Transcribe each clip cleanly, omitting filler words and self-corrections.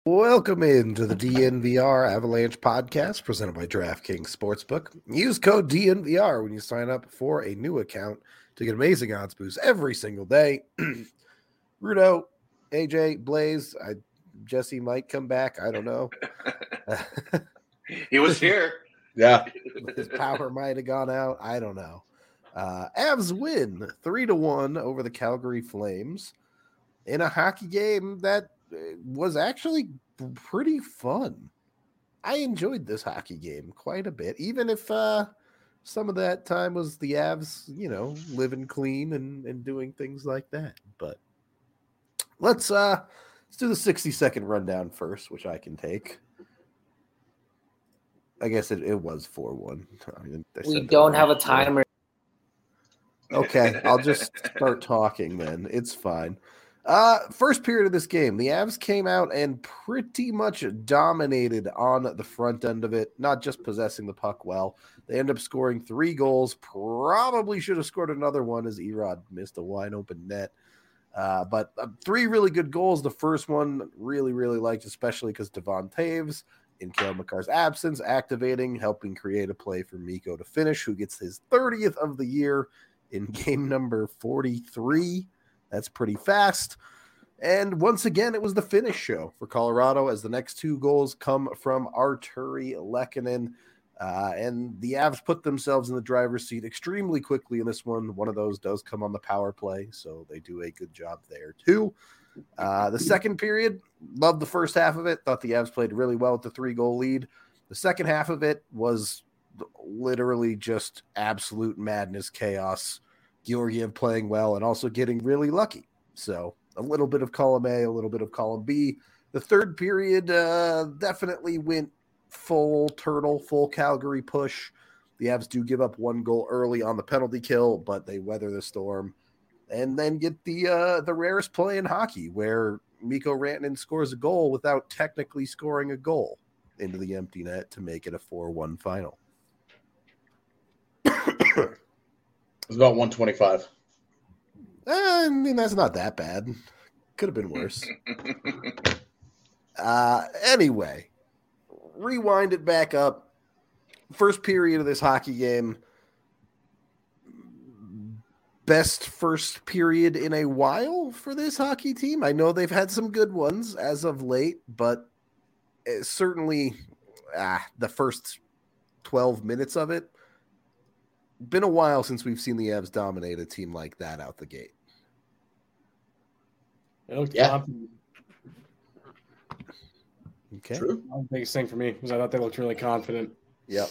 Welcome into the DNVR Avalanche podcast presented by DraftKings Sportsbook. Use code DNVR when you sign up for a new account to get amazing odds boosts every single day. Rudo, AJ, Blaze, Jesse might come back. I don't know. He was here. Yeah. His power might have gone out. I don't know. Avs win 3-1 over the Calgary Flames in a hockey game that was actually pretty fun. I enjoyed this hockey game quite a bit, even if some of that time was the Avs, living clean and doing things like that. But let's do the 60-second rundown first, which I can take. I guess it was 4-1. We don't have a timer. Okay, I'll just start talking then. It's fine. First period of this game, the Avs came out and pretty much dominated on the front end of it, not just possessing the puck well. They ended up scoring 3 goals, probably should have scored another one as Erod missed a wide open net. But 3 really good goals. The first one really, really liked, especially because Devon Taves, in Cale Makar's absence, activating, helping create a play for Mikko to finish, who gets his 30th of the year in game number 43. That's pretty fast. And once again, it was the finish show for Colorado as the next 2 goals come from Artturi Lehkonen. And the Avs put themselves in the driver's seat extremely quickly in this one. One of those does come on the power play, so they do a good job there too. The second period, loved the first half of it. Thought the Avs played really well with the 3-goal lead. The second half of it was literally just absolute madness, chaos. Georgiev playing well and also getting really lucky. So a little bit of column A, a little bit of column B. The third period definitely went full turtle, full Calgary push. The Avs do give up 1 goal early on the penalty kill, but they weather the storm and then get the rarest play in hockey where Mikko Rantanen scores a goal without technically scoring a goal into the empty net to make it a 4-1 final. It was about 125. I mean, that's not that bad. Could have been worse. Anyway, rewind it back up. First period of this hockey game. Best first period in a while for this hockey team. I know they've had some good ones as of late, but certainly the first 12 minutes of it, been a while since we've seen the Avs dominate a team like that out the gate. It looked confident. Okay. True. The biggest thing for me was I thought they looked really confident. Yep.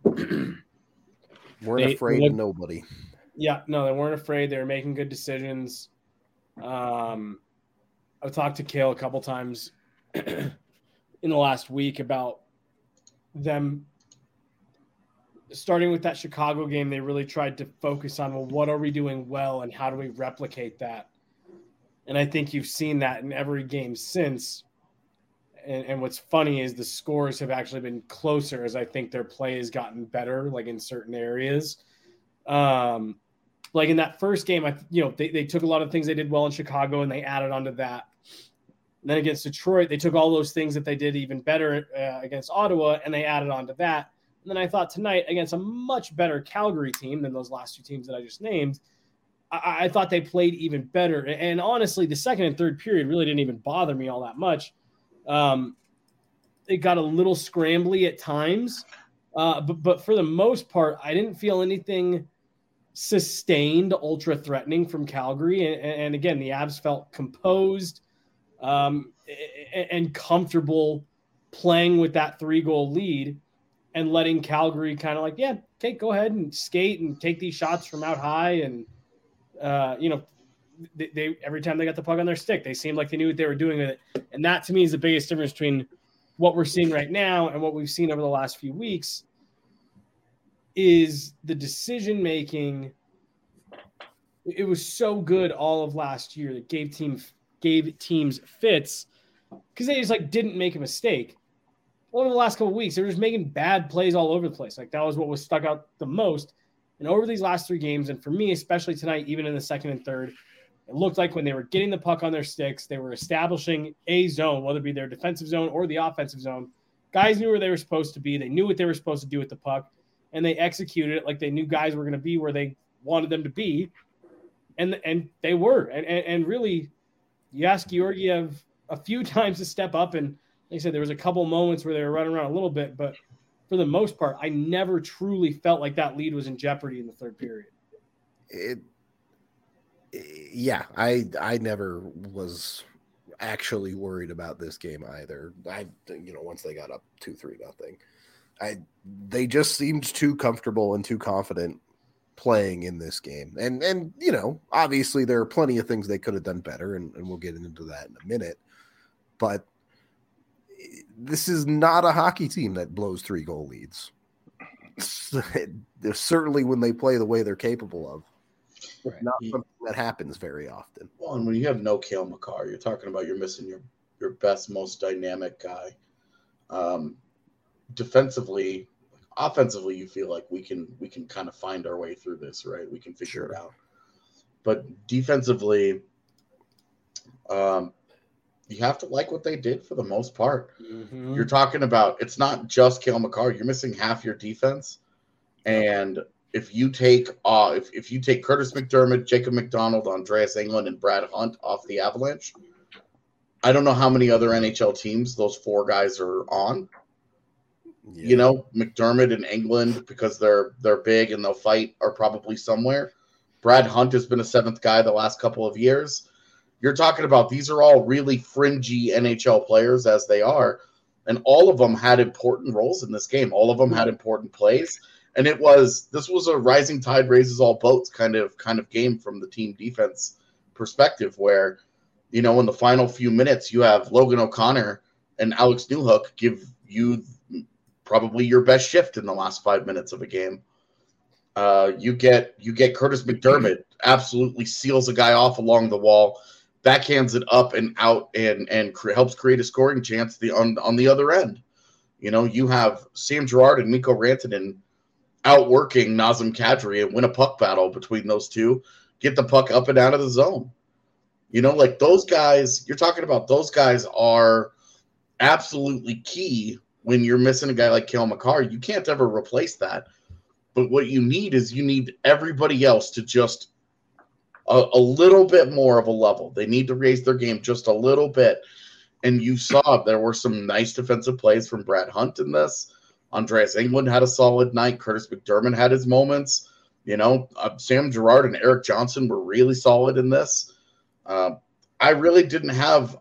Weren't afraid of nobody. Yeah, no, they weren't afraid. They were making good decisions. I've talked to Cale a couple times in the last week about them starting with that Chicago game. They really tried to focus on, well, what are we doing well and how do we replicate that? And I think you've seen that in every game since. And what's funny is the scores have actually been closer as I think their play has gotten better, like in certain areas. Like in that first game, they took a lot of things they did well in Chicago and they added onto that. And then against Detroit, they took all those things that they did even better against Ottawa and they added onto that. And then I thought tonight against a much better Calgary team than those last 2 teams that I just named, I thought they played even better. And honestly, the second and third period really didn't even bother me all that much. It got a little scrambly at times, but for the most part, I didn't feel anything sustained, ultra threatening from Calgary. And again, the Avs felt composed and comfortable playing with that 3-goal lead and letting Calgary kind of like, yeah, okay, go ahead and skate and take these shots from out high. And, they every time they got the puck on their stick, they seemed like they knew what they were doing with it. And that to me is the biggest difference between what we're seeing right now and what we've seen over the last few weeks is the decision-making. It was so good all of last year that gave teams fits because they just like didn't make a mistake. Over the last couple of weeks, they were just making bad plays all over the place. Like that was what was stuck out the most. And over these last 3 games, and for me, especially tonight, even in the second and third, It looked like when they were getting the puck on their sticks, they were establishing a zone, whether it be their defensive zone or the offensive zone. Guys knew where they were supposed to be. They knew what they were supposed to do with the puck, and they executed it like they knew guys were going to be where they wanted them to be, and they were. And really, you ask Georgiev a few times to step up, and like I said, there was a couple moments where they were running around a little bit, but for the most part, I never truly felt like that lead was in jeopardy in the third period. Yeah, I never was actually worried about this game either. Once they got up 2-3-0, they just seemed too comfortable and too confident playing in this game. And obviously there are plenty of things they could have done better, and we'll get into that in a minute. But this is not a hockey team that blows 3-goal leads. Certainly when they play the way they're capable of. Right. Not something that happens very often. Well, and when you have no Cale Makar, you're talking about you're missing your best, most dynamic guy. Defensively, offensively, you feel like we can kind of find our way through this, right? We can figure it out. But defensively, you have to like what they did for the most part. Mm-hmm. You're talking about it's not just Cale Makar. You're missing half your defense, and if you take if you take Curtis McDermott, Jacob McDonald, Andreas Englund, and Brad Hunt off the Avalanche, I don't know how many other NHL teams those four guys are on. Yeah. McDermott and Englund, because they're big and they'll fight, are probably somewhere. Brad Hunt has been a seventh guy the last couple of years. You're talking about these are all really fringy NHL players as they are, and all of them had important roles in this game. All of them had important plays. And this was a rising tide raises all boats kind of game from the team defense perspective, where, in the final few minutes, you have Logan O'Connor and Alex Newhook give you probably your best shift in the last 5 minutes of a game. You get Curtis McDermott absolutely seals a guy off along the wall, backhands it up and out, and helps create a scoring chance on the other end. You have Sam Girard and Mikko Rantanen outworking Nazem Kadri and win a puck battle between those two, get the puck up and out of the zone. Like those guys, you're talking about those guys are absolutely key when you're missing a guy like Cale Makar. You can't ever replace that. But what you need everybody else to just a little bit more of a level. They need to raise their game just a little bit. And you saw there were some nice defensive plays from Brad Hunt in this. Andreas Englund had a solid night. Curtis McDermott had his moments. Sam Girard and Eric Johnson were really solid in this. I really didn't have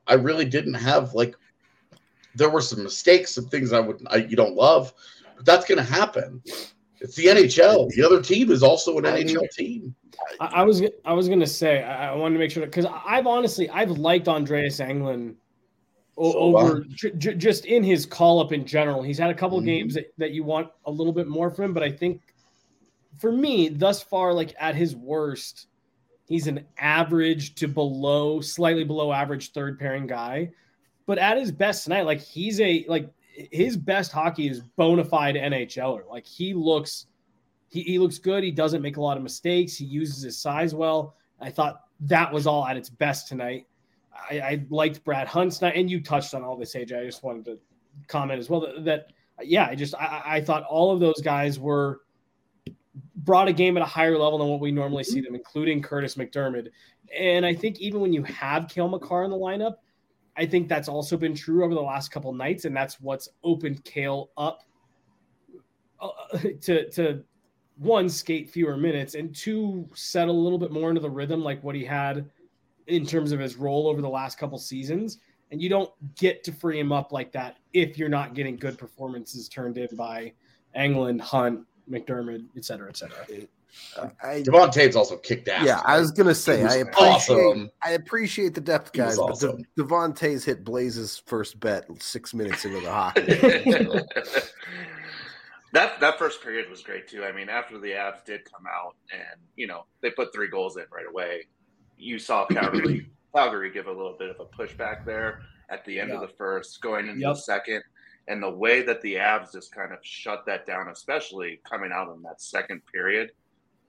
there were some mistakes, some things you don't love, but that's going to happen. It's the NHL. The other team is also an NHL team. I was going to say, I wanted to make sure, because I've liked Andreas Englund over just in his call up in general. He's had a couple of games that you want a little bit more from him, but I think for me thus far, like at his worst, he's an average to slightly below average third pairing guy. But at his best tonight, like his best hockey is bona fide NHLer. Like he looks good. He doesn't make a lot of mistakes. He uses his size well. I thought that was all at its best tonight. I liked Brad Hunt's night, and you touched on all this, AJ. I just wanted to comment as well that I thought all of those guys brought a game at a higher level than what we normally see them, including Curtis McDermott. And I think even when you have Cale Makar in the lineup, I think that's also been true over the last couple nights, and that's what's opened Cale up to one, skate fewer minutes, and two, settle a little bit more into the rhythm like what he had in terms of his role over the last couple seasons. And you don't get to free him up like that if you're not getting good performances turned in by Englund, Hunt, McDermott, et cetera, et cetera. Devon Taves also kicked ass. Yeah, I was going to say, I appreciate the depth guys, but Devon Taves hit Blaze's first bet 6 minutes into the hockey. That first period was great, too. I mean, after the Avs did come out and, they put 3 goals in right away, you saw Calgary give a little bit of a pushback there at the end of the first, going into the second. And the way that the Avs just kind of shut that down, especially coming out in that second period,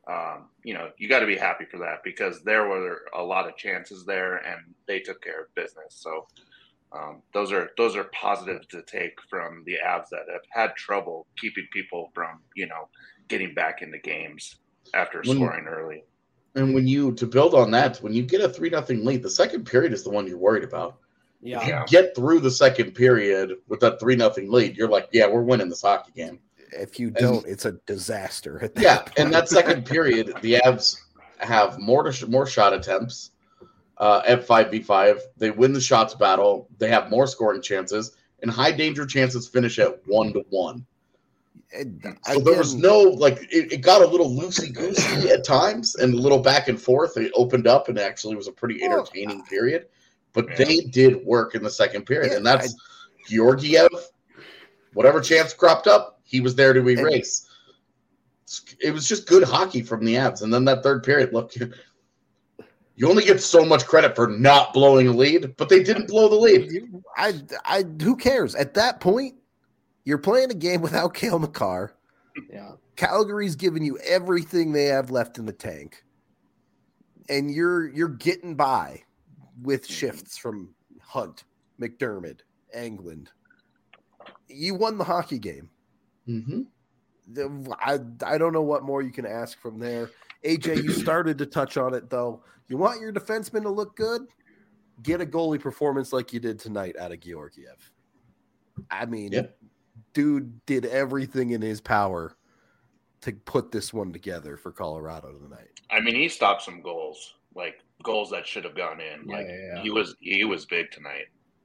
You got to be happy for that because there were a lot of chances there and they took care of business. So those are positives to take from the Avs that have had trouble keeping people from, getting back into games after scoring early. And to build on that, when you get a 3-0 lead, the second period is the one you're worried about. Yeah. If you get through the second period with that 3-0 lead, you're like, yeah, we're winning this hockey game. If you don't, it's a disaster. At that point. And that second period, the Avs have more shot attempts at 5v5. They win the shots battle. They have more scoring chances, and high danger chances finish at 1-1. So there was no it got a little loosey goosey at times and a little back and forth. It opened up and actually was a pretty entertaining period. But they did work in the second period, and that's Georgiev. Whatever chance cropped up, he was there to erase. It was just good hockey from the Avs. And then that third period, look, you only get so much credit for not blowing a lead, but they didn't blow the lead. Who cares? At that point, you're playing a game without Cale Makar. Yeah. Calgary's giving you everything they have left in the tank. And you're getting by with shifts from Hunt, McDermott, Englund. You won the hockey game. Mm-hmm. I don't know what more you can ask from there. AJ, you started to touch on it, though. You want your defenseman to look good? Get a goalie performance like you did tonight out of Georgiev. I mean, dude did everything in his power to put this one together for Colorado tonight. I mean, he stopped some goals, like goals that should have gone in. He was big tonight.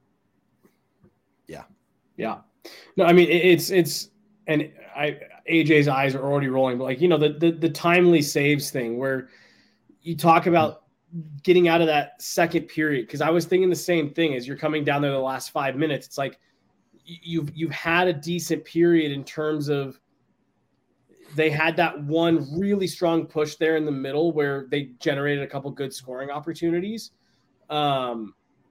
Yeah. No, I mean it's and AJ's eyes are already rolling, but the timely saves thing where you talk about getting out of that second period, because I was thinking the same thing as you're coming down there the last 5 minutes. It's like you've had a decent period in terms of they had that one really strong push there in the middle where they generated a couple good scoring opportunities. And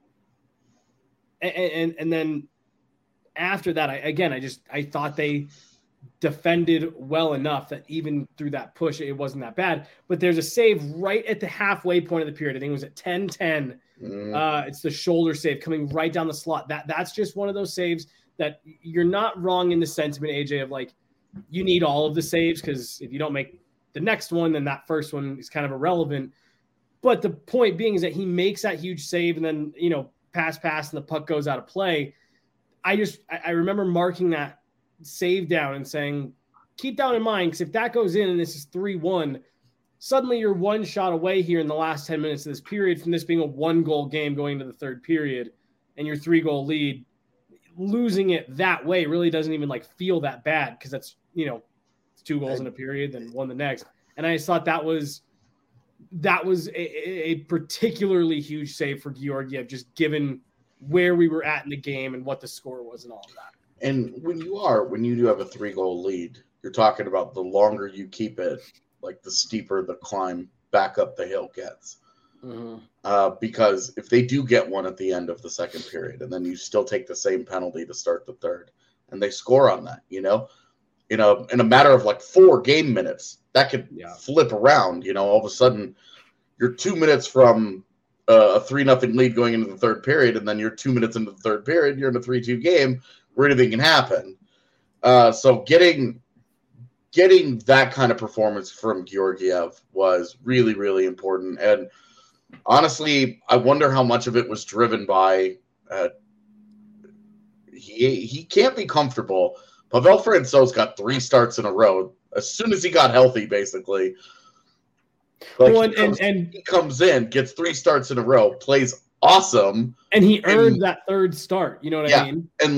then after that, I thought they defended well enough that even through that push, it wasn't that bad. But there's a save right at the halfway point of the period. I think it was at 10-10. It's the shoulder save coming right down the slot. That's just one of those saves that you're not wrong in the sentiment, AJ, of you need all of the saves, because if you don't make the next one, then that first one is kind of irrelevant. But the point being is that he makes that huge save and then, pass, and the puck goes out of play. I remember marking that save down and saying, keep that in mind, because if that goes in and this is 3-1, suddenly you're one shot away here in the last 10 minutes of this period from this being a 1-goal game going into the third period, and your 3-goal lead. Losing it that way really doesn't even feel that bad, because that's, it's 2 goals in a period, then 1 the next. And I just thought that was a particularly huge save for Georgiev, just given where we were at in the game and what the score was and all of that. And when you do have a 3-goal lead, you're talking about the longer you keep it, the steeper the climb back up the hill gets. Mm-hmm. Because if they do get one at the end of the second period, and then you still take the same penalty to start the third, and they score on that, in a matter of 4 game minutes, that could flip around. All of a sudden, you're 2 minutes from a 3-0 lead going into the third period, and then you're 2 minutes into the third period, you're in a 3-2 game where anything can happen. So getting that kind of performance from Georgiev was really, really important. And honestly, I wonder how much of it was driven by he can't be comfortable. Pavel Francouz got 3 starts in a row as soon as he got healthy, basically. He comes in, gets 3 starts in a row, plays awesome, and he earned that third start. You know what I mean? And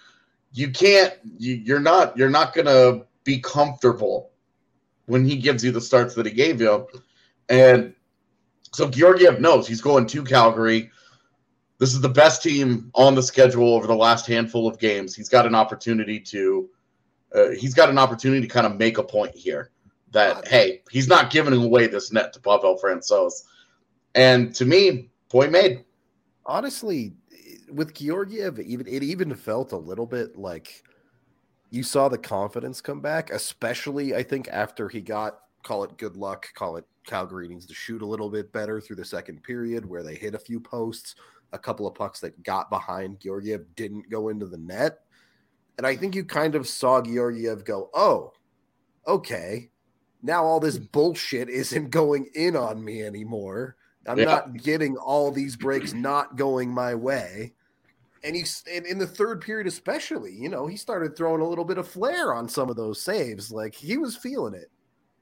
you're not gonna be comfortable when he gives you the starts that he gave you, and so Georgiev knows he's going to Calgary. This is the best team on the schedule over the last handful of games. He's got an opportunity to kind of make a point here that, hey, he's not giving away this net to Pavel Francouz. And to me, point made. Honestly, with Georgiev, it even felt a little bit like you saw the confidence come back, especially I think after he got call it good luck, call it Calgary needs to shoot a little bit better through the second period where they hit a few posts, a couple of pucks that got behind Georgiev didn't go into the net. And I think you kind of saw Georgiev go, oh, okay, now all this bullshit isn't going in on me anymore. I'm not getting all these breaks not going my way. And he's in the third period, especially, he started throwing a little bit of flair on some of those saves. Like, he was feeling it.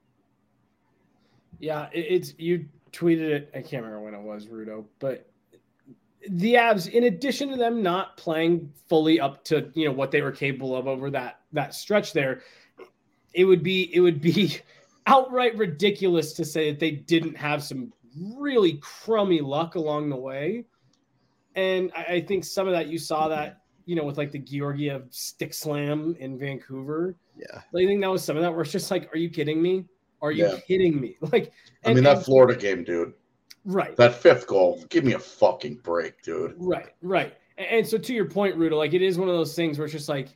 Yeah, you tweeted it. I can't remember when it was, Rudo, but the Avs, in addition to them not playing fully up to what they were capable of over that stretch there, it would be outright ridiculous to say that they didn't have some really crummy luck along the way. And I think some of that you saw that, with like the Georgiev stick slam in Vancouver. Yeah. I think that was some of that where it's just like, are you kidding me? Are you kidding me? Like, that Florida game, dude. Right. That fifth goal, give me a fucking break, dude. Right. And so to your point, Rudo, like it is one of those things where it's just like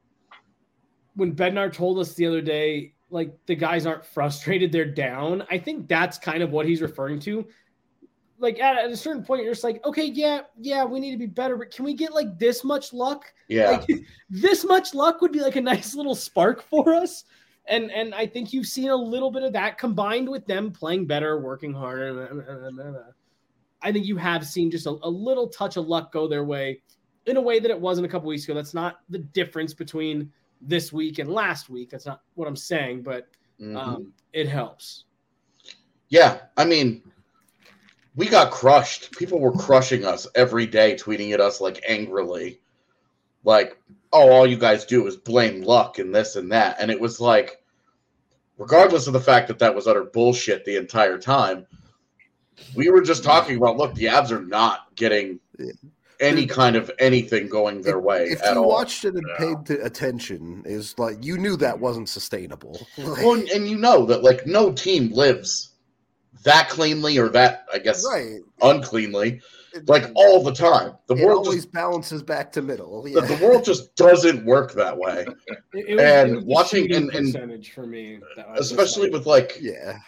when Bednar told us the other day, like the guys aren't frustrated, they're down. I think that's kind of what he's referring to. Like at a certain point, you're just like, okay, yeah, we need to be better, but can we get like this much luck? Yeah. Like, this much luck would be like a nice little spark for us. And I think you've seen a little bit of that combined with them playing better, working harder. I think you have seen just a little touch of luck go their way in a way that it wasn't a couple weeks ago. That's not the difference between this week and last week. That's not what I'm saying, but it helps. Yeah, I mean, we got crushed. People were crushing us every day, tweeting at us like angrily. Like, oh, all you guys do is blame luck and this and that. And it was like, regardless of the fact that was utter bullshit the entire time, we were just talking about, look, the Avs are not getting any kind of anything going their way if at all. If you watched it and paid attention, is like, you knew that wasn't sustainable. Well, and you know that, like, no team lives that cleanly or that, I guess, uncleanly. Like all the time, the world always balances back to middle. Yeah. The world just doesn't work that way. It was watching and percentage for me, especially with like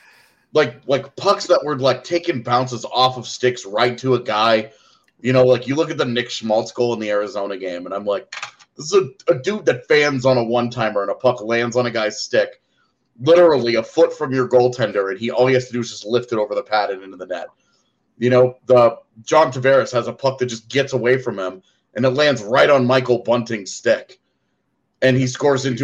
pucks that were like taking bounces off of sticks right to a guy. Like you look at the Nick Schmaltz goal in the Arizona game, and I'm like, this is a dude that fans on a one-timer and a puck lands on a guy's stick, literally a foot from your goaltender, and all he has to do is just lift it over the pad and into the net. The John Tavares has a puck that just gets away from him, and it lands right on Michael Bunting's stick, and he scores into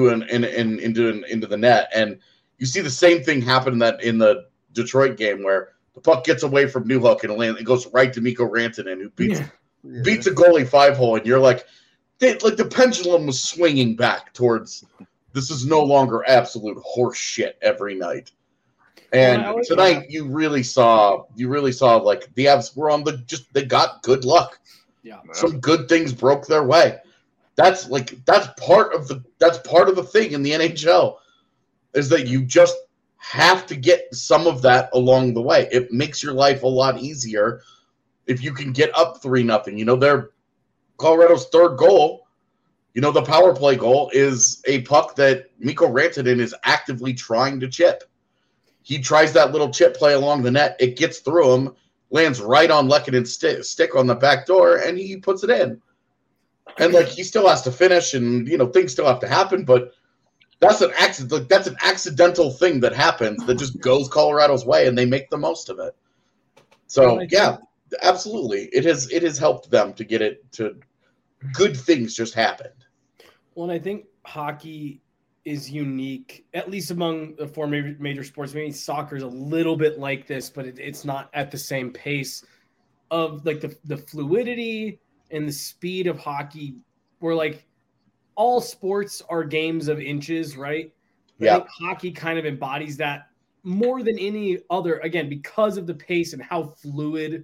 the net. And you see the same thing happen in the Detroit game where the puck gets away from Newhook and it goes right to Mikko Rantanen, who beats a goalie 5-hole, and you're like the pendulum was swinging back towards this is no longer absolute horse shit every night. And tonight you really saw like the Avs were they got good luck. Yeah. Some good things broke their way. That's part of the thing in the NHL is that you just have to get some of that along the way. It makes your life a lot easier if you can get up 3-0. Their Colorado's third goal, the power play goal is a puck that Mikko Rantanen is actively trying to chip. He tries that little chip play along the net. It gets through him, lands right on Lehkonen's stick on the back door, and he puts it in. And he still has to finish, and things still have to happen. But that's an accident. That's an accidental thing that happens that just goes Colorado's way, and they make the most of it. So absolutely, it has helped them to get it to good things just happened. Well, and I think hockey is unique, at least among the four major sports. Maybe soccer is a little bit like this, but it's not at the same pace of like the fluidity and the speed of hockey, where like all sports are games of inches, right? Yeah. I think hockey kind of embodies that more than any other, again, because of the pace and how fluid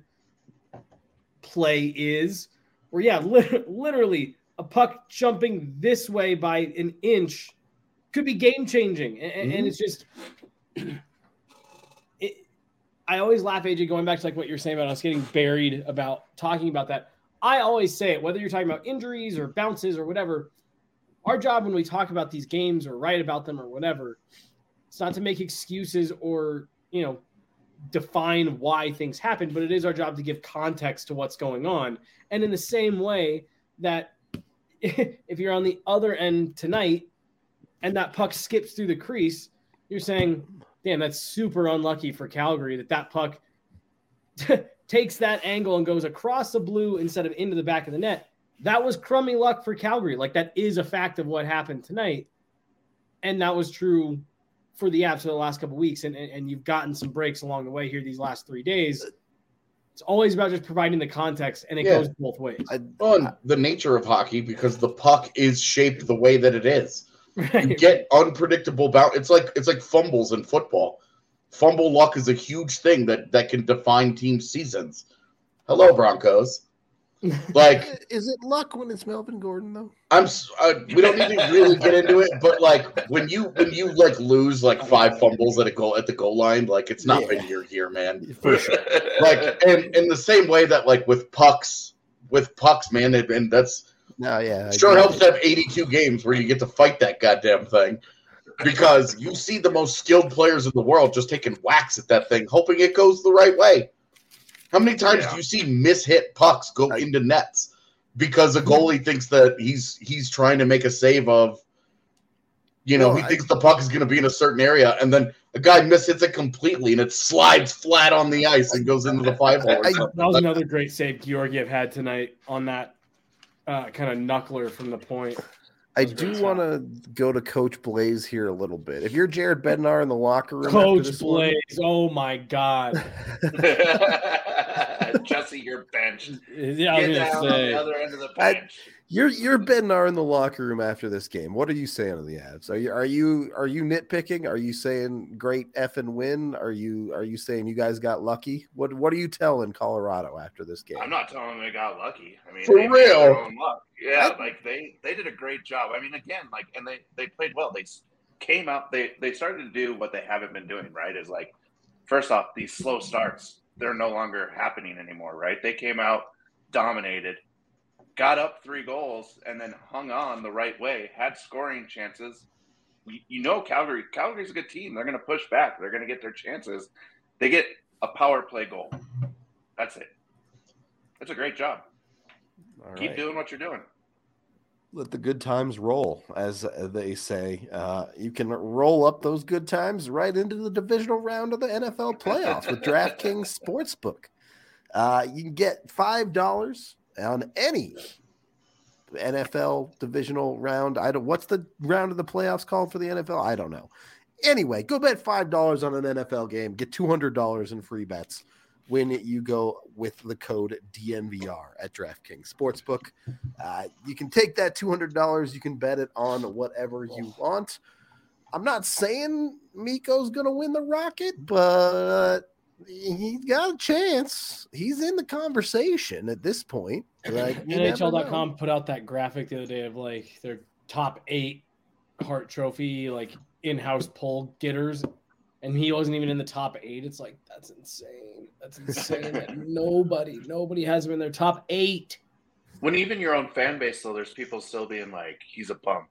play is, where literally a puck jumping this way by an inch could be game changing, and it's just. I always laugh, AJ, going back to like what you're saying about us getting buried about talking about that. I always say it, whether you're talking about injuries or bounces or whatever. Our job when we talk about these games or write about them or whatever, It's not to make excuses or, define why things happen, but it is our job to give context to what's going on. And in the same way that if you're on the other end tonight and that puck skips through the crease, you're saying, damn, that's super unlucky for Calgary that puck takes that angle and goes across the blue instead of into the back of the net. That was crummy luck for Calgary. Like, that is a fact of what happened tonight. And that was true for the Avs for the last couple of weeks. And you've gotten some breaks along the way here these last 3 days. It's always about just providing the context, and it goes both ways. The nature of hockey, because the puck is shaped the way that it is. Right. You get unpredictable bounce. It's like fumbles in football. Fumble luck is a huge thing that can define team seasons. Hello, Broncos. Like, is it luck when it's Melvin Gordon though? We don't need to really get into it, but like when you like lose like 5 fumbles at the goal line, like it's not been your year, man. For sure. Like, and in the same way that like with pucks, man, and that's sure helps to have 82 games where you get to fight that goddamn thing, because you see the most skilled players in the world just taking whacks at that thing, hoping it goes the right way. How many times do you see mishit pucks go into nets because a goalie thinks that he's trying to make a save of, he thinks the puck is going to be in a certain area, and then a guy mishits it completely and it slides flat on the ice and goes into the 5-hole. That was another great save Georgiev had tonight on that kind of knuckler from the point. I do want to go to Coach Blaze here a little bit. If you're Jared Bednar in the locker room, Coach Blaze, oh my God. Jesse, you're benched. Yeah, I was Get down on the other end of the bench. You're Bednar in the locker room after this game. What are you saying to the Avs? Are you nitpicking? Are you saying great effing win? Are you saying you guys got lucky? What are you telling Colorado after this game? I'm not telling them they got lucky. I mean, for real. Their own luck. Yeah, they did a great job. I mean, again, and they played well. They came out. They started to do what they haven't been doing. Right? Is like, first off, these slow starts, they're no longer happening anymore. Right? They came out, dominated, got up 3 goals, and then hung on the right way, had scoring chances. Calgary's a good team. They're going to push back. They're going to get their chances. They get a power play goal. That's it. That's a great job. Keep doing what you're doing. Let the good times roll, as they say. You can roll up those good times right into the divisional round of the NFL playoffs with DraftKings Sportsbook. You can get $5 on any NFL divisional round. What's the round of the playoffs called for the NFL? I don't know. Anyway, go bet $5 on an NFL game. Get $200 in free bets when you go with the code DNVR at DraftKings Sportsbook. You can take that $200. You can bet it on whatever you want. I'm not saying Mikko's going to win the Rocket, but he's got a chance. He's in the conversation at this point. Like, NHL.com put out that graphic the other day of like their top 8 Hart Trophy like in-house poll getters, and he wasn't even in the top 8. It's like, that's insane. That's insane that nobody has him in their top 8. When even your own fan base, though, there's people still being like, he's a bum.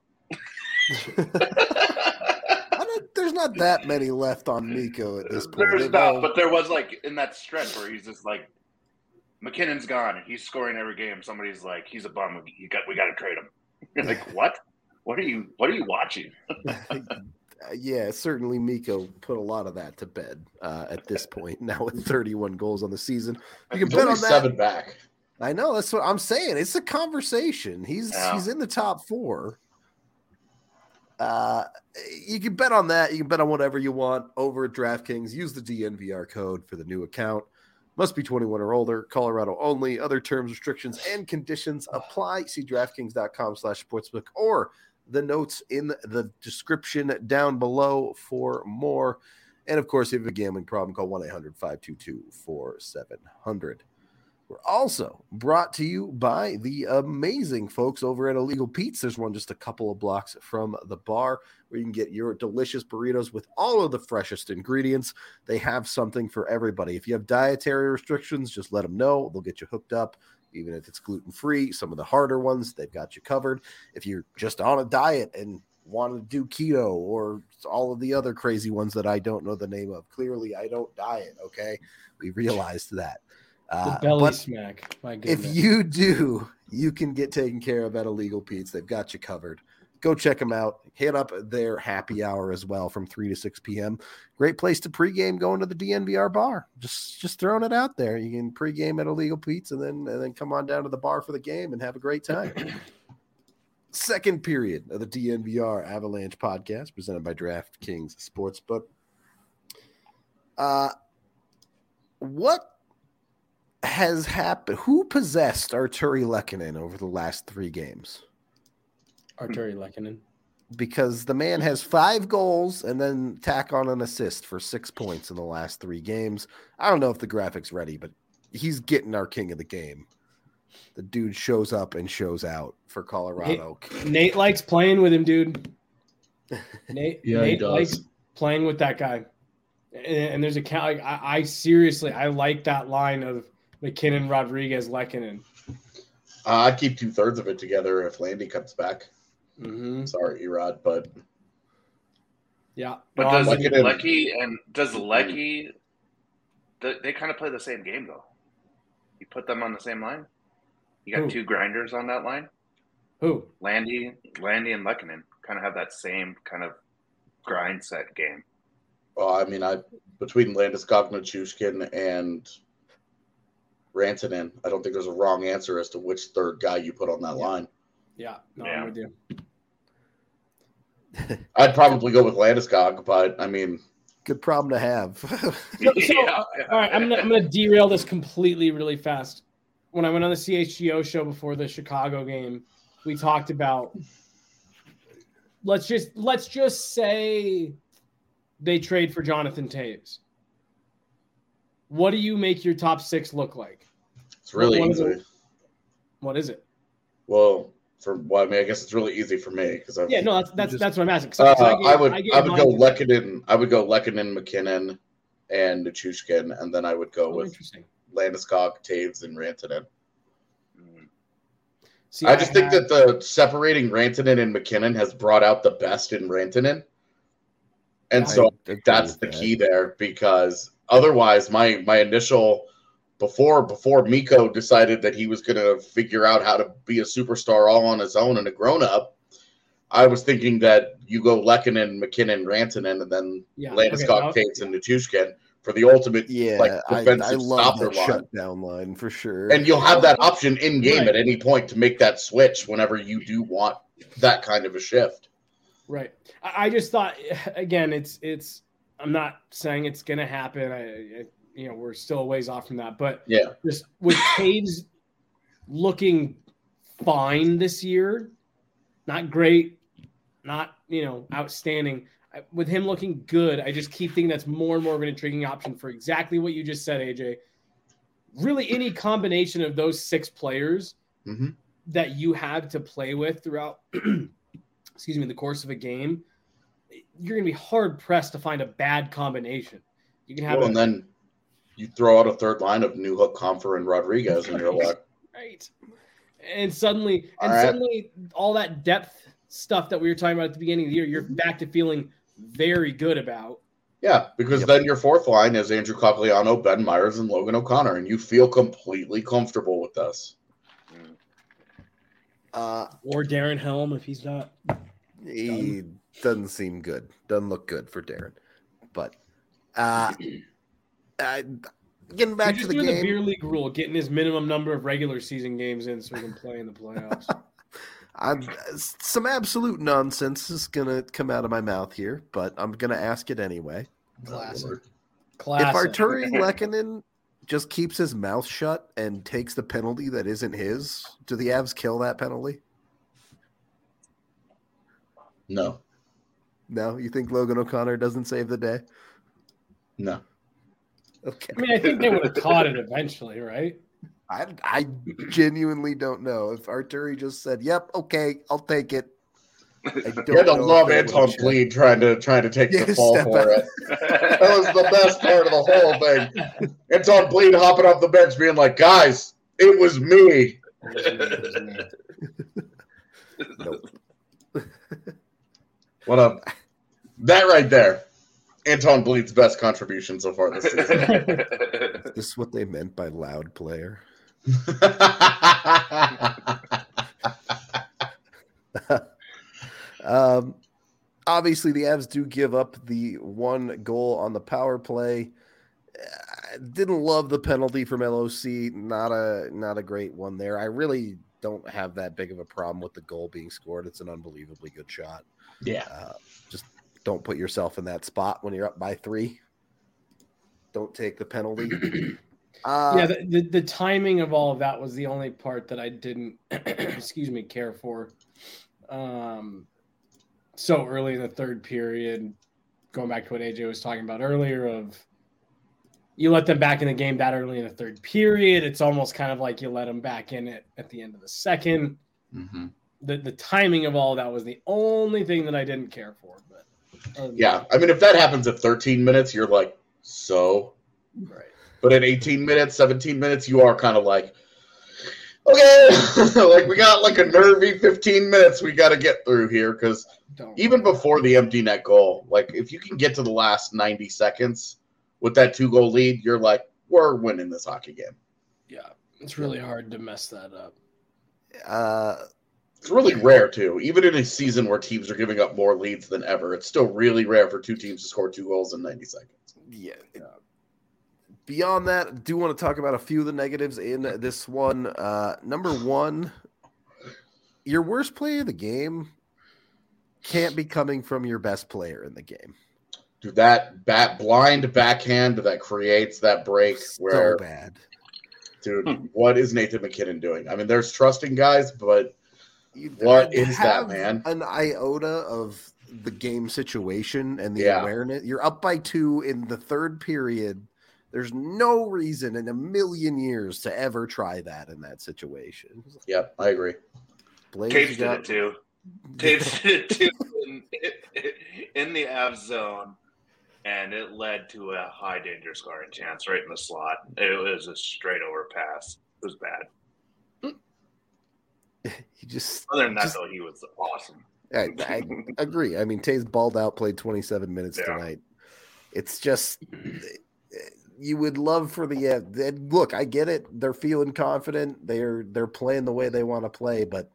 There's not that many left on Mikko at this point. There's not, but there was like in that stretch where he's just like, McKinnon's gone. He's scoring every game. Somebody's like, he's a bum. We got to trade him. You're like, what? What are you watching? Yeah, certainly Mikko put a lot of that to bed at this point. Now with 31 goals on the season, you can bet on that. 7 back. I know, that's what I'm saying. It's a conversation. He's in the top 4. You can bet on that. You can bet on whatever you want over at DraftKings. Use the DNVR code for the new account. Must be 21 or older. Colorado only. Other terms, restrictions, and conditions apply. See DraftKings.com/sportsbook or the notes in the description down below for more. And, of course, if you have a gambling problem, call 1-800-522-4700. We're also brought to you by the amazing folks over at Illegal Pete's. There's one just a couple of blocks from the bar where you can get your delicious burritos with all of the freshest ingredients. They have something for everybody. If you have dietary restrictions, just let them know. They'll get you hooked up, even if it's gluten-free. Some of the harder ones, they've got you covered. If you're just on a diet and want to do keto or all of the other crazy ones that I don't know the name of. Clearly, I don't diet, okay? We realized that. The belly smack. My goodness. If you do, you can get taken care of at Illegal Pete's. They've got you covered. Go check them out. Hit up their happy hour as well from 3 to 6 p.m. Great place to pregame going to the DNVR bar. Just throwing it out there. You can pregame at Illegal Pete's and then come on down to the bar for the game and have a great time. Second period of the DNVR Avalanche podcast presented by DraftKings Sportsbook. What has happened? Who possessed Artturi Lehkonen over the last 3 games? Artturi Lehkonen. Because the man has 5 goals and then tack on an assist for 6 points in the last 3 games. I don't know if the graphic's ready, but he's getting our king of the game. The dude shows up and shows out for Colorado. Nate likes playing with him, dude. Nate he does. likes playing with that guy. And there's a count. I seriously, I like that line of McKinnon, Rodriguez, Lehkonen. I'd keep 2/3 of it together if Landy comes back. Mm-hmm. Sorry, Erod, but yeah. But does Lecky? They kind of play the same game though. You put them on the same line. You got 2 grinders on that line. Who? Landy, and Lehkonen kind of have that same kind of grind set game. well, I mean, between Landeskog, Nichushkin, and Rantanen, I don't think there's a wrong answer as to which third guy you put on that line. Yeah, I'm with you. I'd probably go with Landeskog, but I mean, good problem to have. All right, I'm gonna derail this completely really fast. When I went on the CHGO show before the Chicago game, we talked about let's just say they trade for Jonathan Toews. What do you make your top 6 look like? It's really easy. What is it? Well, I guess it's really easy for me because that's what I'm asking. I would go Lehkonen. I would go Lehkonen, McKinnon, and Nichushkin, and then I would go with Landeskog, Taves, and Rantanen. I just think that the separating Rantanen and McKinnon has brought out the best in Rantanen, and so that's the key there. Because otherwise, my initial before Mikko decided that he was going to figure out how to be a superstar all on his own and a grown up, I was thinking that you go Lehkonen, McKinnon, Rantanen, and then Landeskog, Taves, and Nichushkin for the ultimate defensive stopper line. Shutdown line for sure. And you'll have that option in game at any point to make that switch whenever you do want that kind of a shift. Right. I just thought, again, it's. I'm not saying it's going to happen. We're still a ways off from that, but just with Taves looking fine this year, not great, not outstanding. With him looking good, I just keep thinking that's more and more of an intriguing option for exactly what you just said, AJ. Really, any combination of those 6 players that you have to play with throughout, the course of a game, you're going to be hard pressed to find a bad combination. You can have, and then you throw out a third line of Newhook, Comfer, and Rodriguez, and you're like, right. And suddenly, all that depth stuff that we were talking about at the beginning of the year, you're back to feeling very good about. Yeah, because then your fourth line is Andrew Cogliano, Ben Myers, and Logan O'Connor, and you feel completely comfortable with this. Or Darren Helm if he's not. He doesn't seem good. Doesn't look good for Darren. But getting back to the game. The beer league rule, getting his minimum number of regular season games in so he can play in the playoffs. Some absolute nonsense is going to come out of my mouth here, but I'm going to ask it anyway. Classic. If Artturi Lehkonen just keeps his mouth shut and takes the penalty that isn't his, do the Avs kill that penalty? No. No? You think Logan O'Connor doesn't save the day? No. Okay. I mean, I think they would have caught it eventually, right? I genuinely don't know. If Artturi just said, "Yep, okay, I'll take it." You had to love Anton Bleed trying to take the fall for it. That was the best part of the whole thing. Anton Bleed hopping off the bench, being like, "Guys, it was me." Nope. What up? That right there. Anton Bleed's best contribution so far this season. Is this what they meant by loud player? Obviously, the Avs do give up the one goal on the power play. Didn't love the penalty from LOC. Not a great one there. I really don't have that big of a problem with the goal being scored. It's an unbelievably good shot. Yeah. Just don't put yourself in that spot when you're up by 3. Don't take the penalty. The timing of all of that was the only part that I didn't, care for. So early in the third period, going back to what AJ was talking about earlier, of you let them back in the game that early in the third period. It's almost kind of like you let them back in it at the end of the second. Mm-hmm. The timing of all of that was the only thing that I didn't care for. But yeah, I mean, if that happens at 13 minutes, you're like, so? Right. But at 18 minutes, 17 minutes, you are kind of like, okay, like we got like a nervy 15 minutes we got to get through here, because even before the empty net goal, like if you can get to the last 90 seconds with that 2-goal lead, you're like, we're winning this hockey game. Yeah, it's really hard to mess that up. It's really rare, too. Even in a season where teams are giving up more leads than ever, it's still really rare for 2 teams to score 2 goals in 90 seconds. Yeah. Beyond that, I do want to talk about a few of the negatives in this one. Number 1, your worst play of the game can't be coming from your best player in the game. Dude, that blind backhand that creates that break where... So bad. Dude, what is Nathan MacKinnon doing? I mean, there's trusting guys, but what is that, man? An iota of the game situation and the awareness. You're up by 2 in the third period. There's no reason in a million years to ever try that in that situation. Yep, I agree. Taves did it too. Taves did it too in the Avs zone, and it led to a high danger scoring chance right in the slot. It was a straight over pass. It was bad. Other than that, though, he was awesome. I agree. I mean, Taves balled out, played 27 minutes tonight. It's just... You would love for look, I get it. They're feeling confident. They're playing the way they want to play, but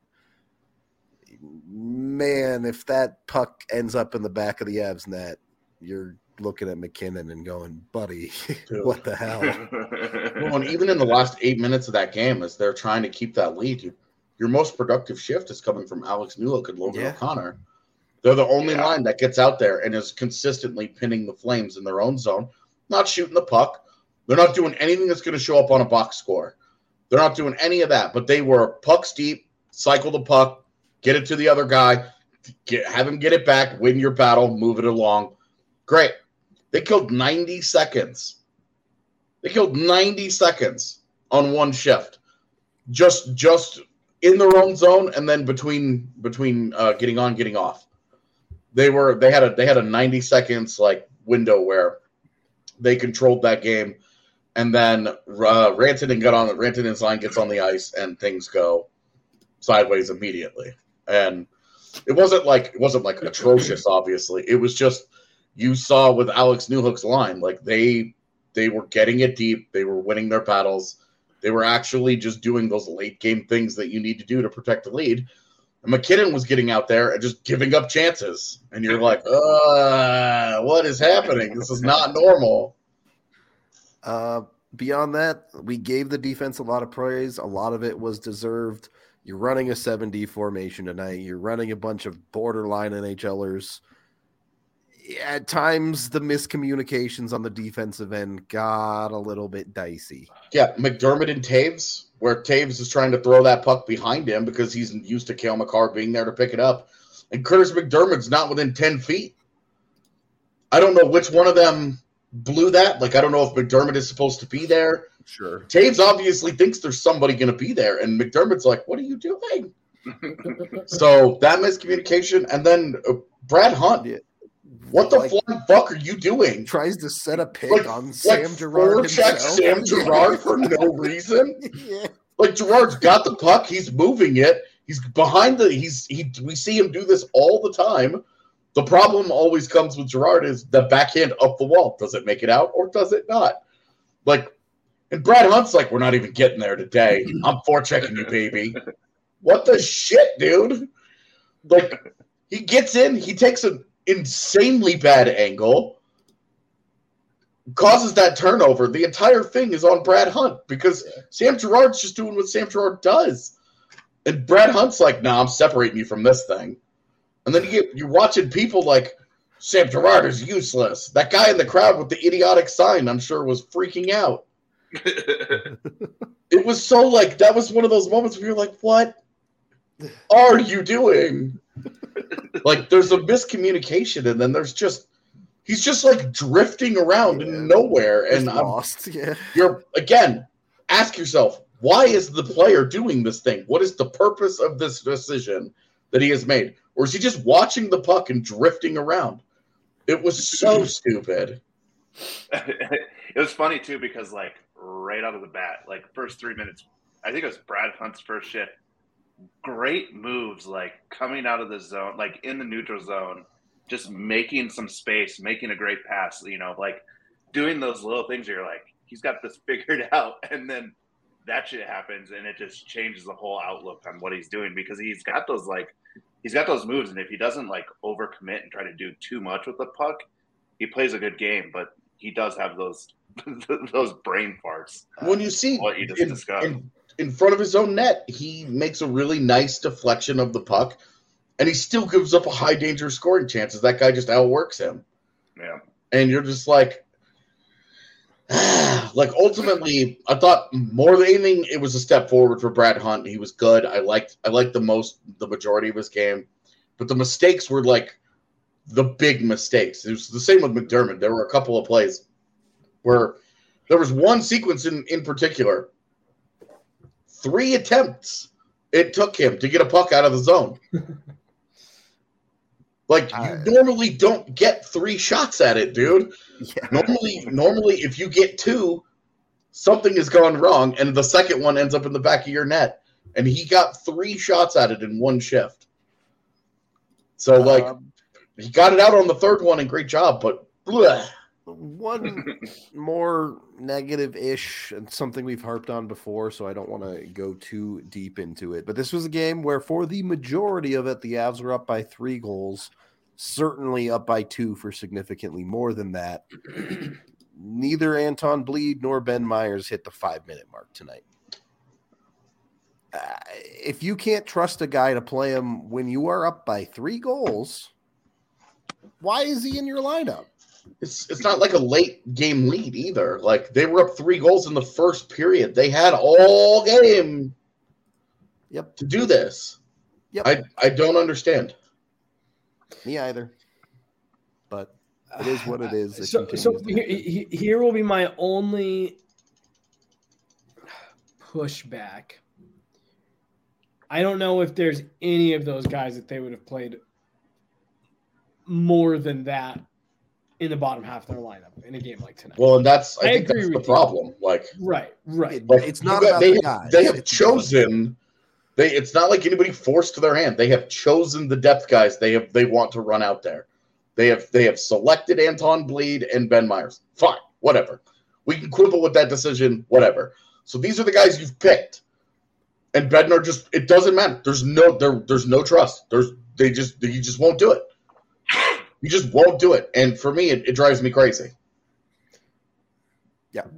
man, if that puck ends up in the back of the Avs net, you're looking at MacKinnon and going, buddy, what the hell? Well, and even in the last 8 minutes of that game, as they're trying to keep that lead, your most productive shift is coming from Alex Newhook and Logan O'Connor. They're the only line that gets out there and is consistently pinning the Flames in their own zone. Not shooting the puck. They're not doing anything that's going to show up on a box score. They're not doing any of that, but they were pucks deep, cycle the puck, get it to the other guy, have him get it back, win your battle, move it along. Great. They killed 90 seconds. They killed 90 seconds on one shift. Just in their own zone and then between getting on, getting off. They had a 90 seconds like window where they controlled that game, and then Rantanen's line gets on the ice, and things go sideways immediately. And it wasn't like atrocious. Obviously, it was just you saw with Alex Newhook's line, like they were getting it deep, they were winning their battles, they were actually just doing those late game things that you need to do to protect the lead. And MacKinnon was getting out there and just giving up chances. And you're like, what is happening? This is not normal. Beyond that, we gave the defense a lot of praise. A lot of it was deserved. You're running a 7D formation tonight. You're running a bunch of borderline NHLers. At times, the miscommunications on the defensive end got a little bit dicey. Yeah, McDermott and Taves, where Taves is trying to throw that puck behind him because he's used to Cale Makar being there to pick it up. And Curtis McDermott's not within 10 feet. I don't know which one of them blew that. Like, I don't know if McDermott is supposed to be there. Sure. Taves obviously thinks there's somebody going to be there. And McDermott's like, what are you doing? So that miscommunication. And then Brad Hunt. Yeah. What the flying fuck are you doing? Tries to set a pick on Sam Girard himself. Sam Girard for no reason. Yeah. Like Girard's got the puck, he's moving it. He's behind we see him do this all the time. The problem always comes with Girard is the backhand up the wall. Does it make it out or does it not? Like, and Brad Hunt's like, we're not even getting there today. I'm forechecking you, baby. What the shit, dude? Like, he gets in, he takes an insanely bad angle, causes that turnover. The entire thing is on Brad Hunt because Sam Girard's just doing what Sam Girard does. And Brad Hunt's like, nah, I'm separating you from this thing. And then you're watching people like, Sam Girard is useless. That guy in the crowd with the idiotic sign, I'm sure, was freaking out. It was so like, that was one of those moments where you're like, what are you doing? Like, there's a miscommunication, and then he's just like drifting around in nowhere. And I'm lost. Yeah. You're, again, ask yourself, why is the player doing this thing? What is the purpose of this decision that he has made? Or is he just watching the puck and drifting around? It was so stupid. It was funny, too, because, like, right out of the bat, like, first 3 minutes, I think it was Brad Hunt's first shift. Great moves, like, coming out of the zone, like, in the neutral zone, just making some space, making a great pass, you know, like, doing those little things where you're like, he's got this figured out, and then that shit happens, and it just changes the whole outlook on what he's doing because he's got those moves, and if he doesn't like overcommit and try to do too much with the puck, he plays a good game. But he does have those brain farts. When you see what you just discussed in front of his own net, he makes a really nice deflection of the puck, and he still gives up a high danger scoring chances. That guy just outworks him. Yeah, and you're just like. Like, ultimately, I thought more than anything, it was a step forward for Brad Hunt. He was good. I liked the majority of his game, but the mistakes were like the big mistakes. It was the same with McDermott. There were a couple of plays where there was one sequence in particular, 3 attempts it took him to get a puck out of the zone. Like, you normally don't get 3 shots at it, dude. Yeah. Normally, if you get 2, something has gone wrong, and the second one ends up in the back of your net. And he got 3 shots at it in one shift. So, he got it out on the third one, and great job, but bleh. One more negative-ish, and something we've harped on before, so I don't want to go too deep into it. But this was a game where, for the majority of it, the Avs were up by 3 goals, certainly up by 2 for significantly more than that. Neither Anton Bleed nor Ben Myers hit the 5-minute mark tonight. If you can't trust a guy to play him when you are up by 3 goals, why is he in your lineup? It's not like a late game lead either. Like, they were up 3 goals in the first period. They had all game to do this. Yep. I don't understand. Me either. But it is what it is. So here will be my only pushback. I don't know if there's any of those guys that they would have played more than that in the bottom half of their lineup in a game like tonight. Well, and I think that's the problem. Like, right. Like, it's not about the guys. They have chosen. It's not like anybody forced their hand. They have chosen the depth guys they want to run out there. They have selected Anton Bleed and Ben Myers. Fine, whatever. We can quibble with that decision, whatever. So these are the guys you've picked. And Bednar it doesn't matter. There's no trust. You just won't do it. You just won't do it. And for me, it drives me crazy. Yeah.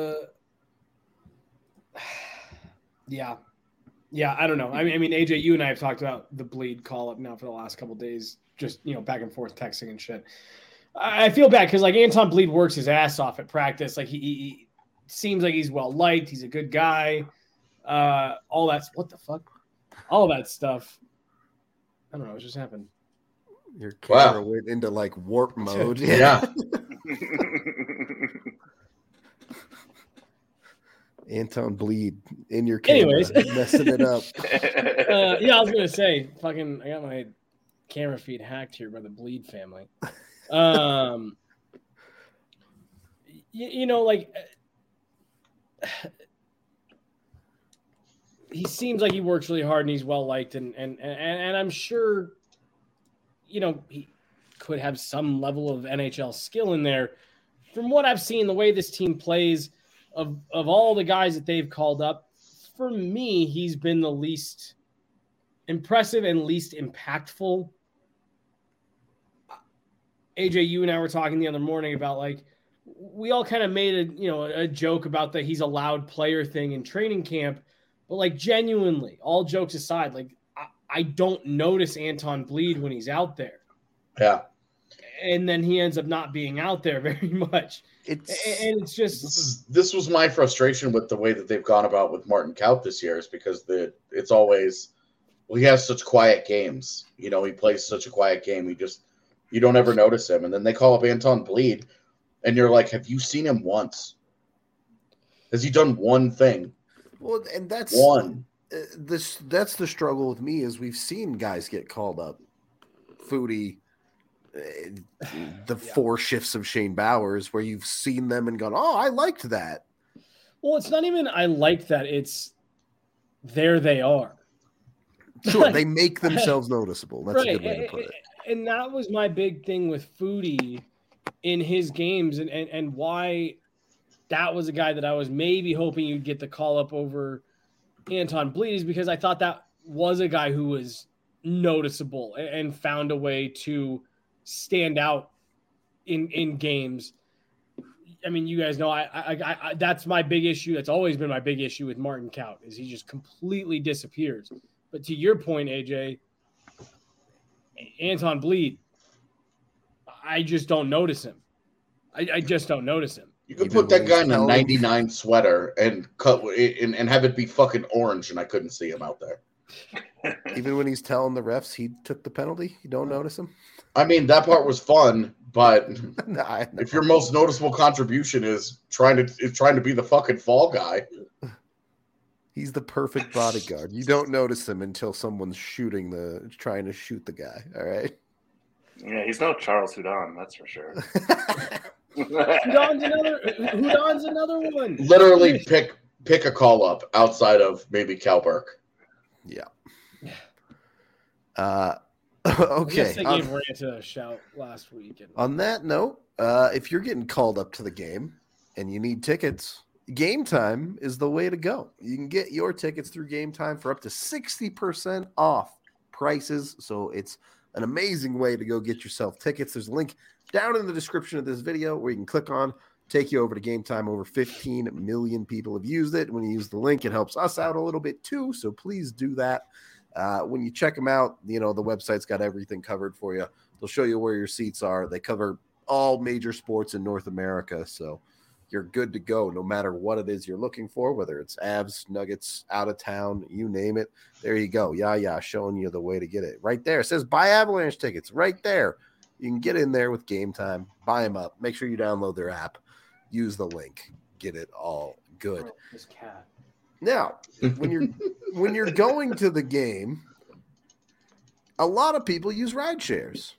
Yeah, I don't know. I mean, AJ, you and I have talked about the Bleed call-up now for the last couple of days, just, back and forth texting and shit. I feel bad because, like, Anton Bleed works his ass off at practice. Like, he seems like he's well-liked. He's a good guy. All that – what the fuck? All that stuff. I don't know. What just happened? Your camera went into, like, warp mode. Yeah. Anton Bleed in your camera. Anyways. Messing it up. I was going to say, I got my camera feed hacked here by the Bleed family. He seems like he works really hard and he's well liked, and I'm sure, could have some level of NHL skill in there. From what I've seen, the way this team plays, of all the guys that they've called up, for me, he's been the least impressive and least impactful. AJ, you and I were talking the other morning about, like, we all kind of made a joke about that he's a loud player thing in training camp, but like genuinely, all jokes aside, like I don't notice Anton bleed when he's out there. Yeah. And then he ends up not being out there very much. It's just this was my frustration with the way that they've gone about with Martin Kaut this year, is because it's always, well, he has such quiet games. He plays such a quiet game. You don't ever notice him. And then they call up Anton Bleed, and you're like, have you seen him once? Has he done one thing? Well, and that's one. That's the struggle with me, is we've seen guys get called up. Foodie, the 4 shifts of Shane Bowers, where you've seen them and gone, oh, I liked that. Well, it's not even I liked that. It's there they are. Sure, they make themselves noticeable. That's a good way to put it. And that was my big thing with Foodie in his games, and why that was a guy that I was maybe hoping you'd get the call up over Anton Bleed, is because I thought that was a guy who was noticeable and found a way to stand out in games. I mean, you guys know I that's my big issue. That's always been my big issue with Martin Kaut, is he just completely disappears. But to your point, AJ, Anton Bleed, I just don't notice him. I just don't notice him. You could put that guy in a 99 sweater and and have it be fucking orange, and I couldn't see him out there. Even when he's telling the refs he took the penalty, you don't notice him? I mean, that part was fun, but if your most noticeable contribution is trying to be the fucking fall guy, he's the perfect bodyguard. You don't notice him until someone's trying to shoot the guy. All right. Yeah, he's no Charles Houdon, that's for sure. Houdon's another one. Literally pick a call up outside of maybe Cal Burke. Yeah. Okay. I gave Rant a shout last week. On that note, if you're getting called up to the game and you need tickets, Game Time is the way to go. You can get your tickets through Game Time for up to 60% off prices. So it's an amazing way to go get yourself tickets. There's a link down in the description of this video where you can click on, take you over to Game Time. Over 15 million people have used it. When you use the link, it helps us out a little bit too. So please do that. When you check them out, the website's got everything covered for you. They'll show you where your seats are. They cover all major sports in North America. So you're good to go no matter what it is you're looking for, whether it's Avs, Nuggets, out of town, you name it. There you go. Yeah, showing you the way to get it. Right there. It says buy Avalanche tickets right there. You can get in there with Game Time, buy them up. Make sure you download their app. Use the link. Get it all good. This cat. Now, when you're going to the game, a lot of people use ride shares.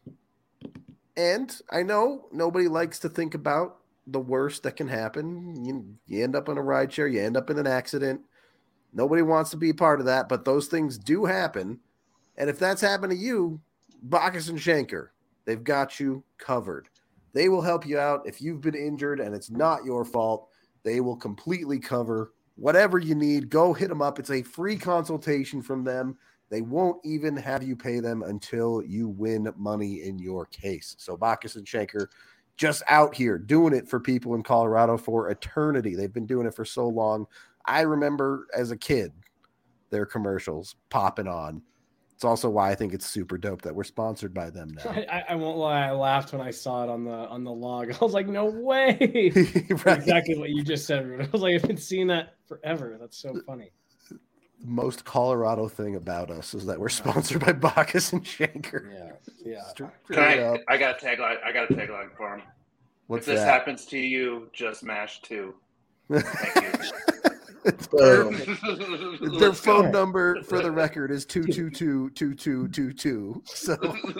And I know nobody likes to think about the worst that can happen. You end up in a ride share, you end up in an accident. Nobody wants to be a part of that, but those things do happen. And if that's happened to you, Bacchus and Schenker, they've got you covered. They will help you out. If you've been injured and it's not your fault, they will completely cover whatever you need. Go hit them up. It's a free consultation from them. They won't even have you pay them until you win money in your case. So Bacchus and Schenker, just out here doing it for people in Colorado for eternity. They've been doing it for so long. I remember as a kid, their commercials popping on. It's also why I think it's super dope that we're sponsored by them now. I won't lie. I laughed when I saw it on the log. I was like, no way. Right. Exactly what you just said, Ruben. I was like, I've been seeing that forever. That's so funny. The most Colorado thing about us is that we're sponsored by Bacchus and Schenker. Yeah. I got a tagline for him. What's if this that? happens to you, just mash 2. Thank you. It's perfect. Their phone number, for the record, is 222-2222. So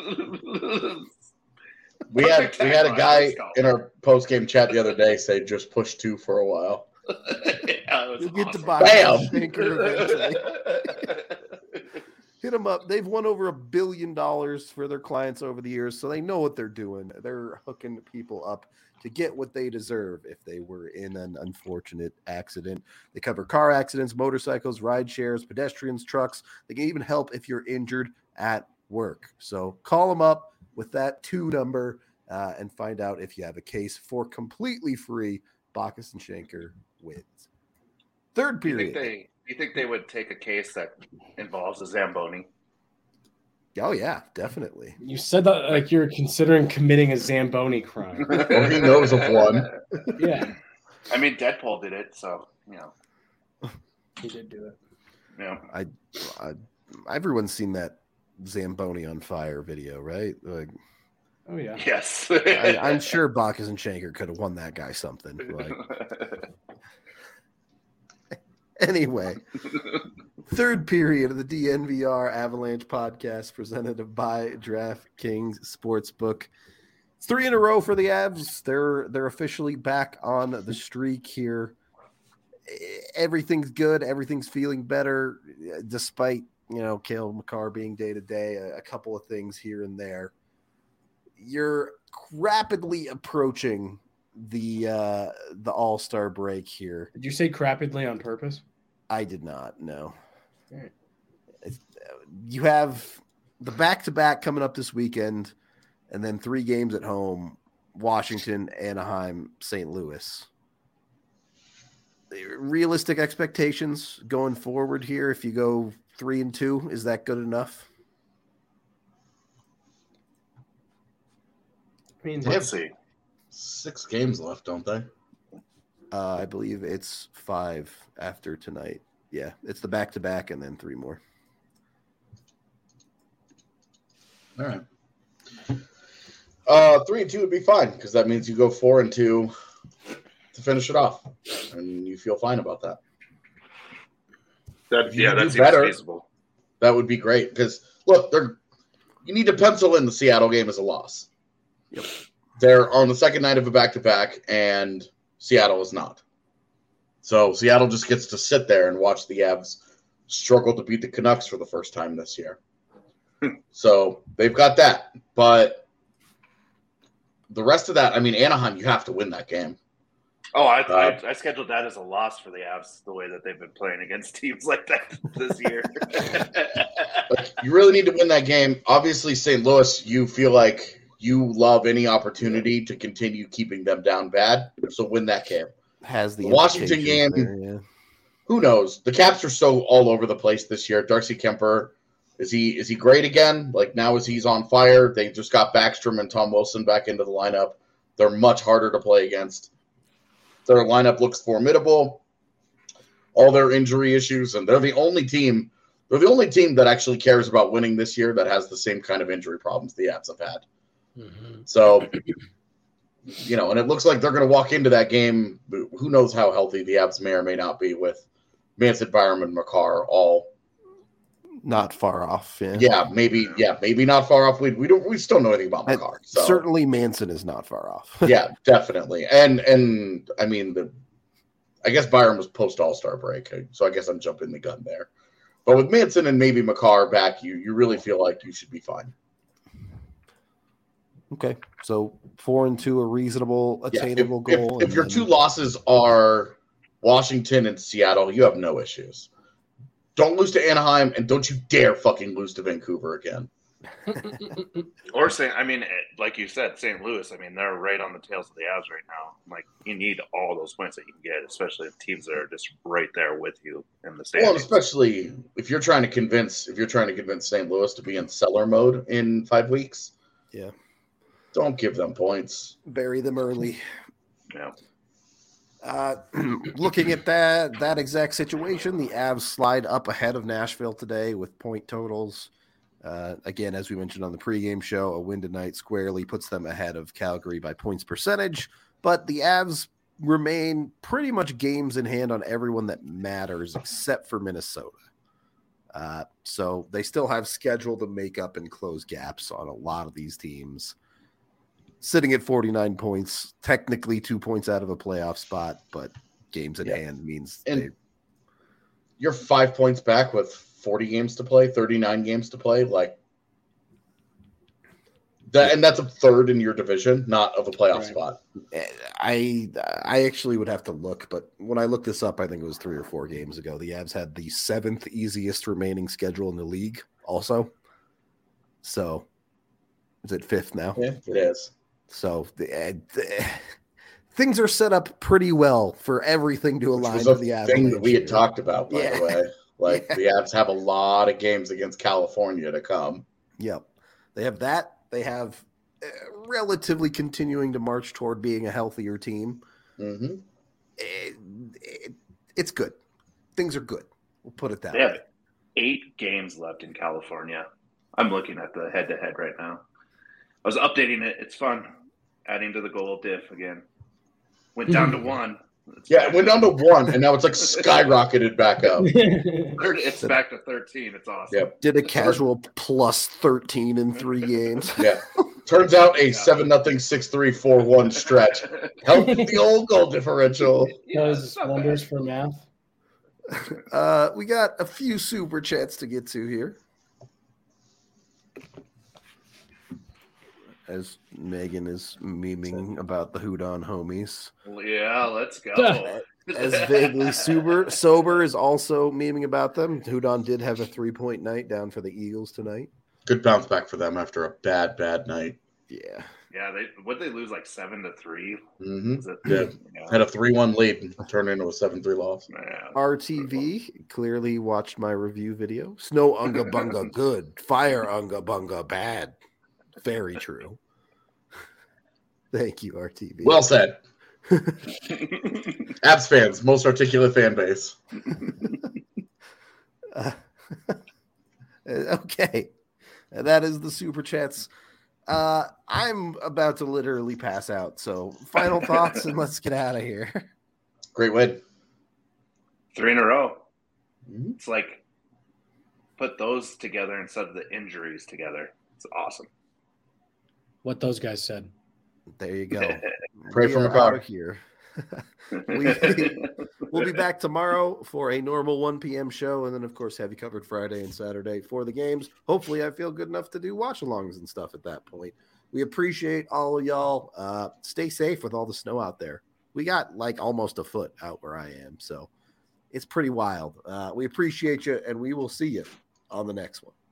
we had a guy in our post-game chat the other day say just push 2 for a while. Yeah, you'll get awesome. to Bacchus and Schenker eventually. Hit them up. They've won over $1 billion for their clients over the years, so they know what they're doing. They're hooking people up to get what they deserve if they were in an unfortunate accident. They cover car accidents, motorcycles, ride shares, pedestrians, trucks. They can even help if you're injured at work. So call them up with that 2 number and find out if you have a case for completely free. Bacchus and Schenker wins. Third period. Do you think they would take a case that involves a Zamboni? Oh, yeah, definitely. You said that like you're considering committing a Zamboni crime. Or he knows of one. Yeah. I mean, Deadpool did it, so, you know. He did do it. Yeah. Everyone's seen that Zamboni on fire video, right? Like, oh, yeah. Yes. I'm sure Bacchus and Schenker could have won that guy something. Like, anyway, third period of the DNVR Avalanche podcast presented by DraftKings Sportsbook. It's 3 in a row for the Avs. They're officially back on the streak here. Everything's good. Everything's feeling better, despite, Cale Makar being day-to-day, a couple of things here and there. You're rapidly approaching the All-Star break here. Did you say rapidly on purpose? I did not, no. Right. You have the back-to-back coming up this weekend, and then 3 games at home, Washington, Anaheim, St. Louis. Realistic expectations going forward here, if you go 3-2, is that good enough? I mean, let's see. 6 games left, don't they? I believe it's 5 after tonight. Yeah, it's the back-to-back and then 3 more. All right. 3-2 would be fine because that means you go 4-2 to finish it off, and you feel fine about that. That seems better, feasible. That would be great because look, you need to pencil in the Seattle game as a loss. Yep. They're on the second night of a back-to-back, and Seattle is not. So Seattle just gets to sit there and watch the Avs struggle to beat the Canucks for the first time this year. So they've got that. But the rest of that, I mean, Anaheim, you have to win that game. Oh, I scheduled that as a loss for the Avs, the way that they've been playing against teams like that this year. You really need to win that game. Obviously, St. Louis, you feel like you love any opportunity to continue keeping them down bad. So win that game. Has the Washington game, there, yeah. Who knows? The Caps are so all over the place this year. Darcy Kemper, is he great again? Like now as he's on fire, they just got Backstrom and Tom Wilson back into the lineup. They're much harder to play against. Their lineup looks formidable. All their injury issues, and they're the only team that actually cares about winning this year that has the same kind of injury problems the Avs have had. Mm-hmm. So, and it looks like they're going to walk into that game. Who knows how healthy the Avs may or may not be with Manson, Byram, and Makar all not far off. Maybe not far off. We still know anything about Makar. So. Certainly, Manson is not far off. Yeah, definitely. And I mean, I guess Byram was post All-Star break, so I guess I'm jumping the gun there. But with Manson and maybe Makar back, you really feel like you should be fine. Okay, so 4-2, a reasonable, attainable goal. If your 2 losses are Washington and Seattle, you have no issues. Don't lose to Anaheim, and don't you dare fucking lose to Vancouver again. Or like you said, St. Louis. I mean, they're right on the tails of the Avs right now. Like, you need all those points that you can get, especially if teams that are just right there with you in the standings. Well, especially if you're trying to convince St. Louis to be in seller mode in 5 weeks. Yeah. Don't give them points. Bury them early. Yeah. Looking at that exact situation, the Avs slide up ahead of Nashville today with point totals. Again, as we mentioned on the pregame show, a win tonight squarely puts them ahead of Calgary by points percentage. But the Avs remain pretty much games in hand on everyone that matters except for Minnesota. So they still have schedule to make up and close gaps on a lot of these teams. Sitting at 49 points, technically 2 points out of a playoff spot, but games in hand means you're 5 points back with 40 games to play, 39 games to play. Like that, and that's a third in your division, not of a playoff spot. I actually would have to look, but when I looked this up, I think it was 3 or 4 games ago. The Avs had the 7th easiest remaining schedule in the league also. So is it 5th now? Yeah, it is. So things are set up pretty well for everything to align to the Avalanche. Thing that we had talked about, by the way. Like the Avs have a lot of games against California to come. Yep. They have that. They have relatively continuing to march toward being a healthier team. Mm-hmm. It's good. Things are good. We'll put it that way. They have 8 games left in California. I'm looking at the head-to-head right now. I was updating it. It's fun. Adding to the goal diff again. Went down to 1. It went down to 1, and now it's like skyrocketed back up. It's back to 13. It's awesome. Yep. Did a casual plus 13 in 3 games. Yeah. Turns out a 7-0, 6-3, 4-1 stretch helped the old goal differential. Does wonders for math. We got a few super chats to get to here. As Megan is memeing about the Houdon homies. Yeah, let's go. As vaguely sober is also memeing about them. Houdon did have a 3-point night down for the Eagles tonight. Good bounce back for them after a bad night. Yeah. Yeah, they lose like 7-3? Mm-hmm. Had a 3-1 lead and turned into a 7-3 loss. Yeah. RTV clearly watched my review video. Snow Unga Bunga good. Fire Unga Bunga bad. Very true. Thank you, RTV. Well said. Abs fans, most articulate fan base. Okay. That is the super chats. I'm about to literally pass out. So final thoughts and let's get out of here. Great win. 3 in a row. Mm-hmm. It's like put those together instead of the injuries together. It's awesome. What those guys said. There you go. Pray for my out of here. We'll be back tomorrow for a normal 1 p.m. show, and then of course have you covered Friday and Saturday for the games. Hopefully I feel good enough to do watch-alongs and stuff at that point. We appreciate all of y'all. Stay safe with all the snow out there. We got like almost a foot out where I am, so it's pretty wild. We appreciate you, and we will see you on the next one.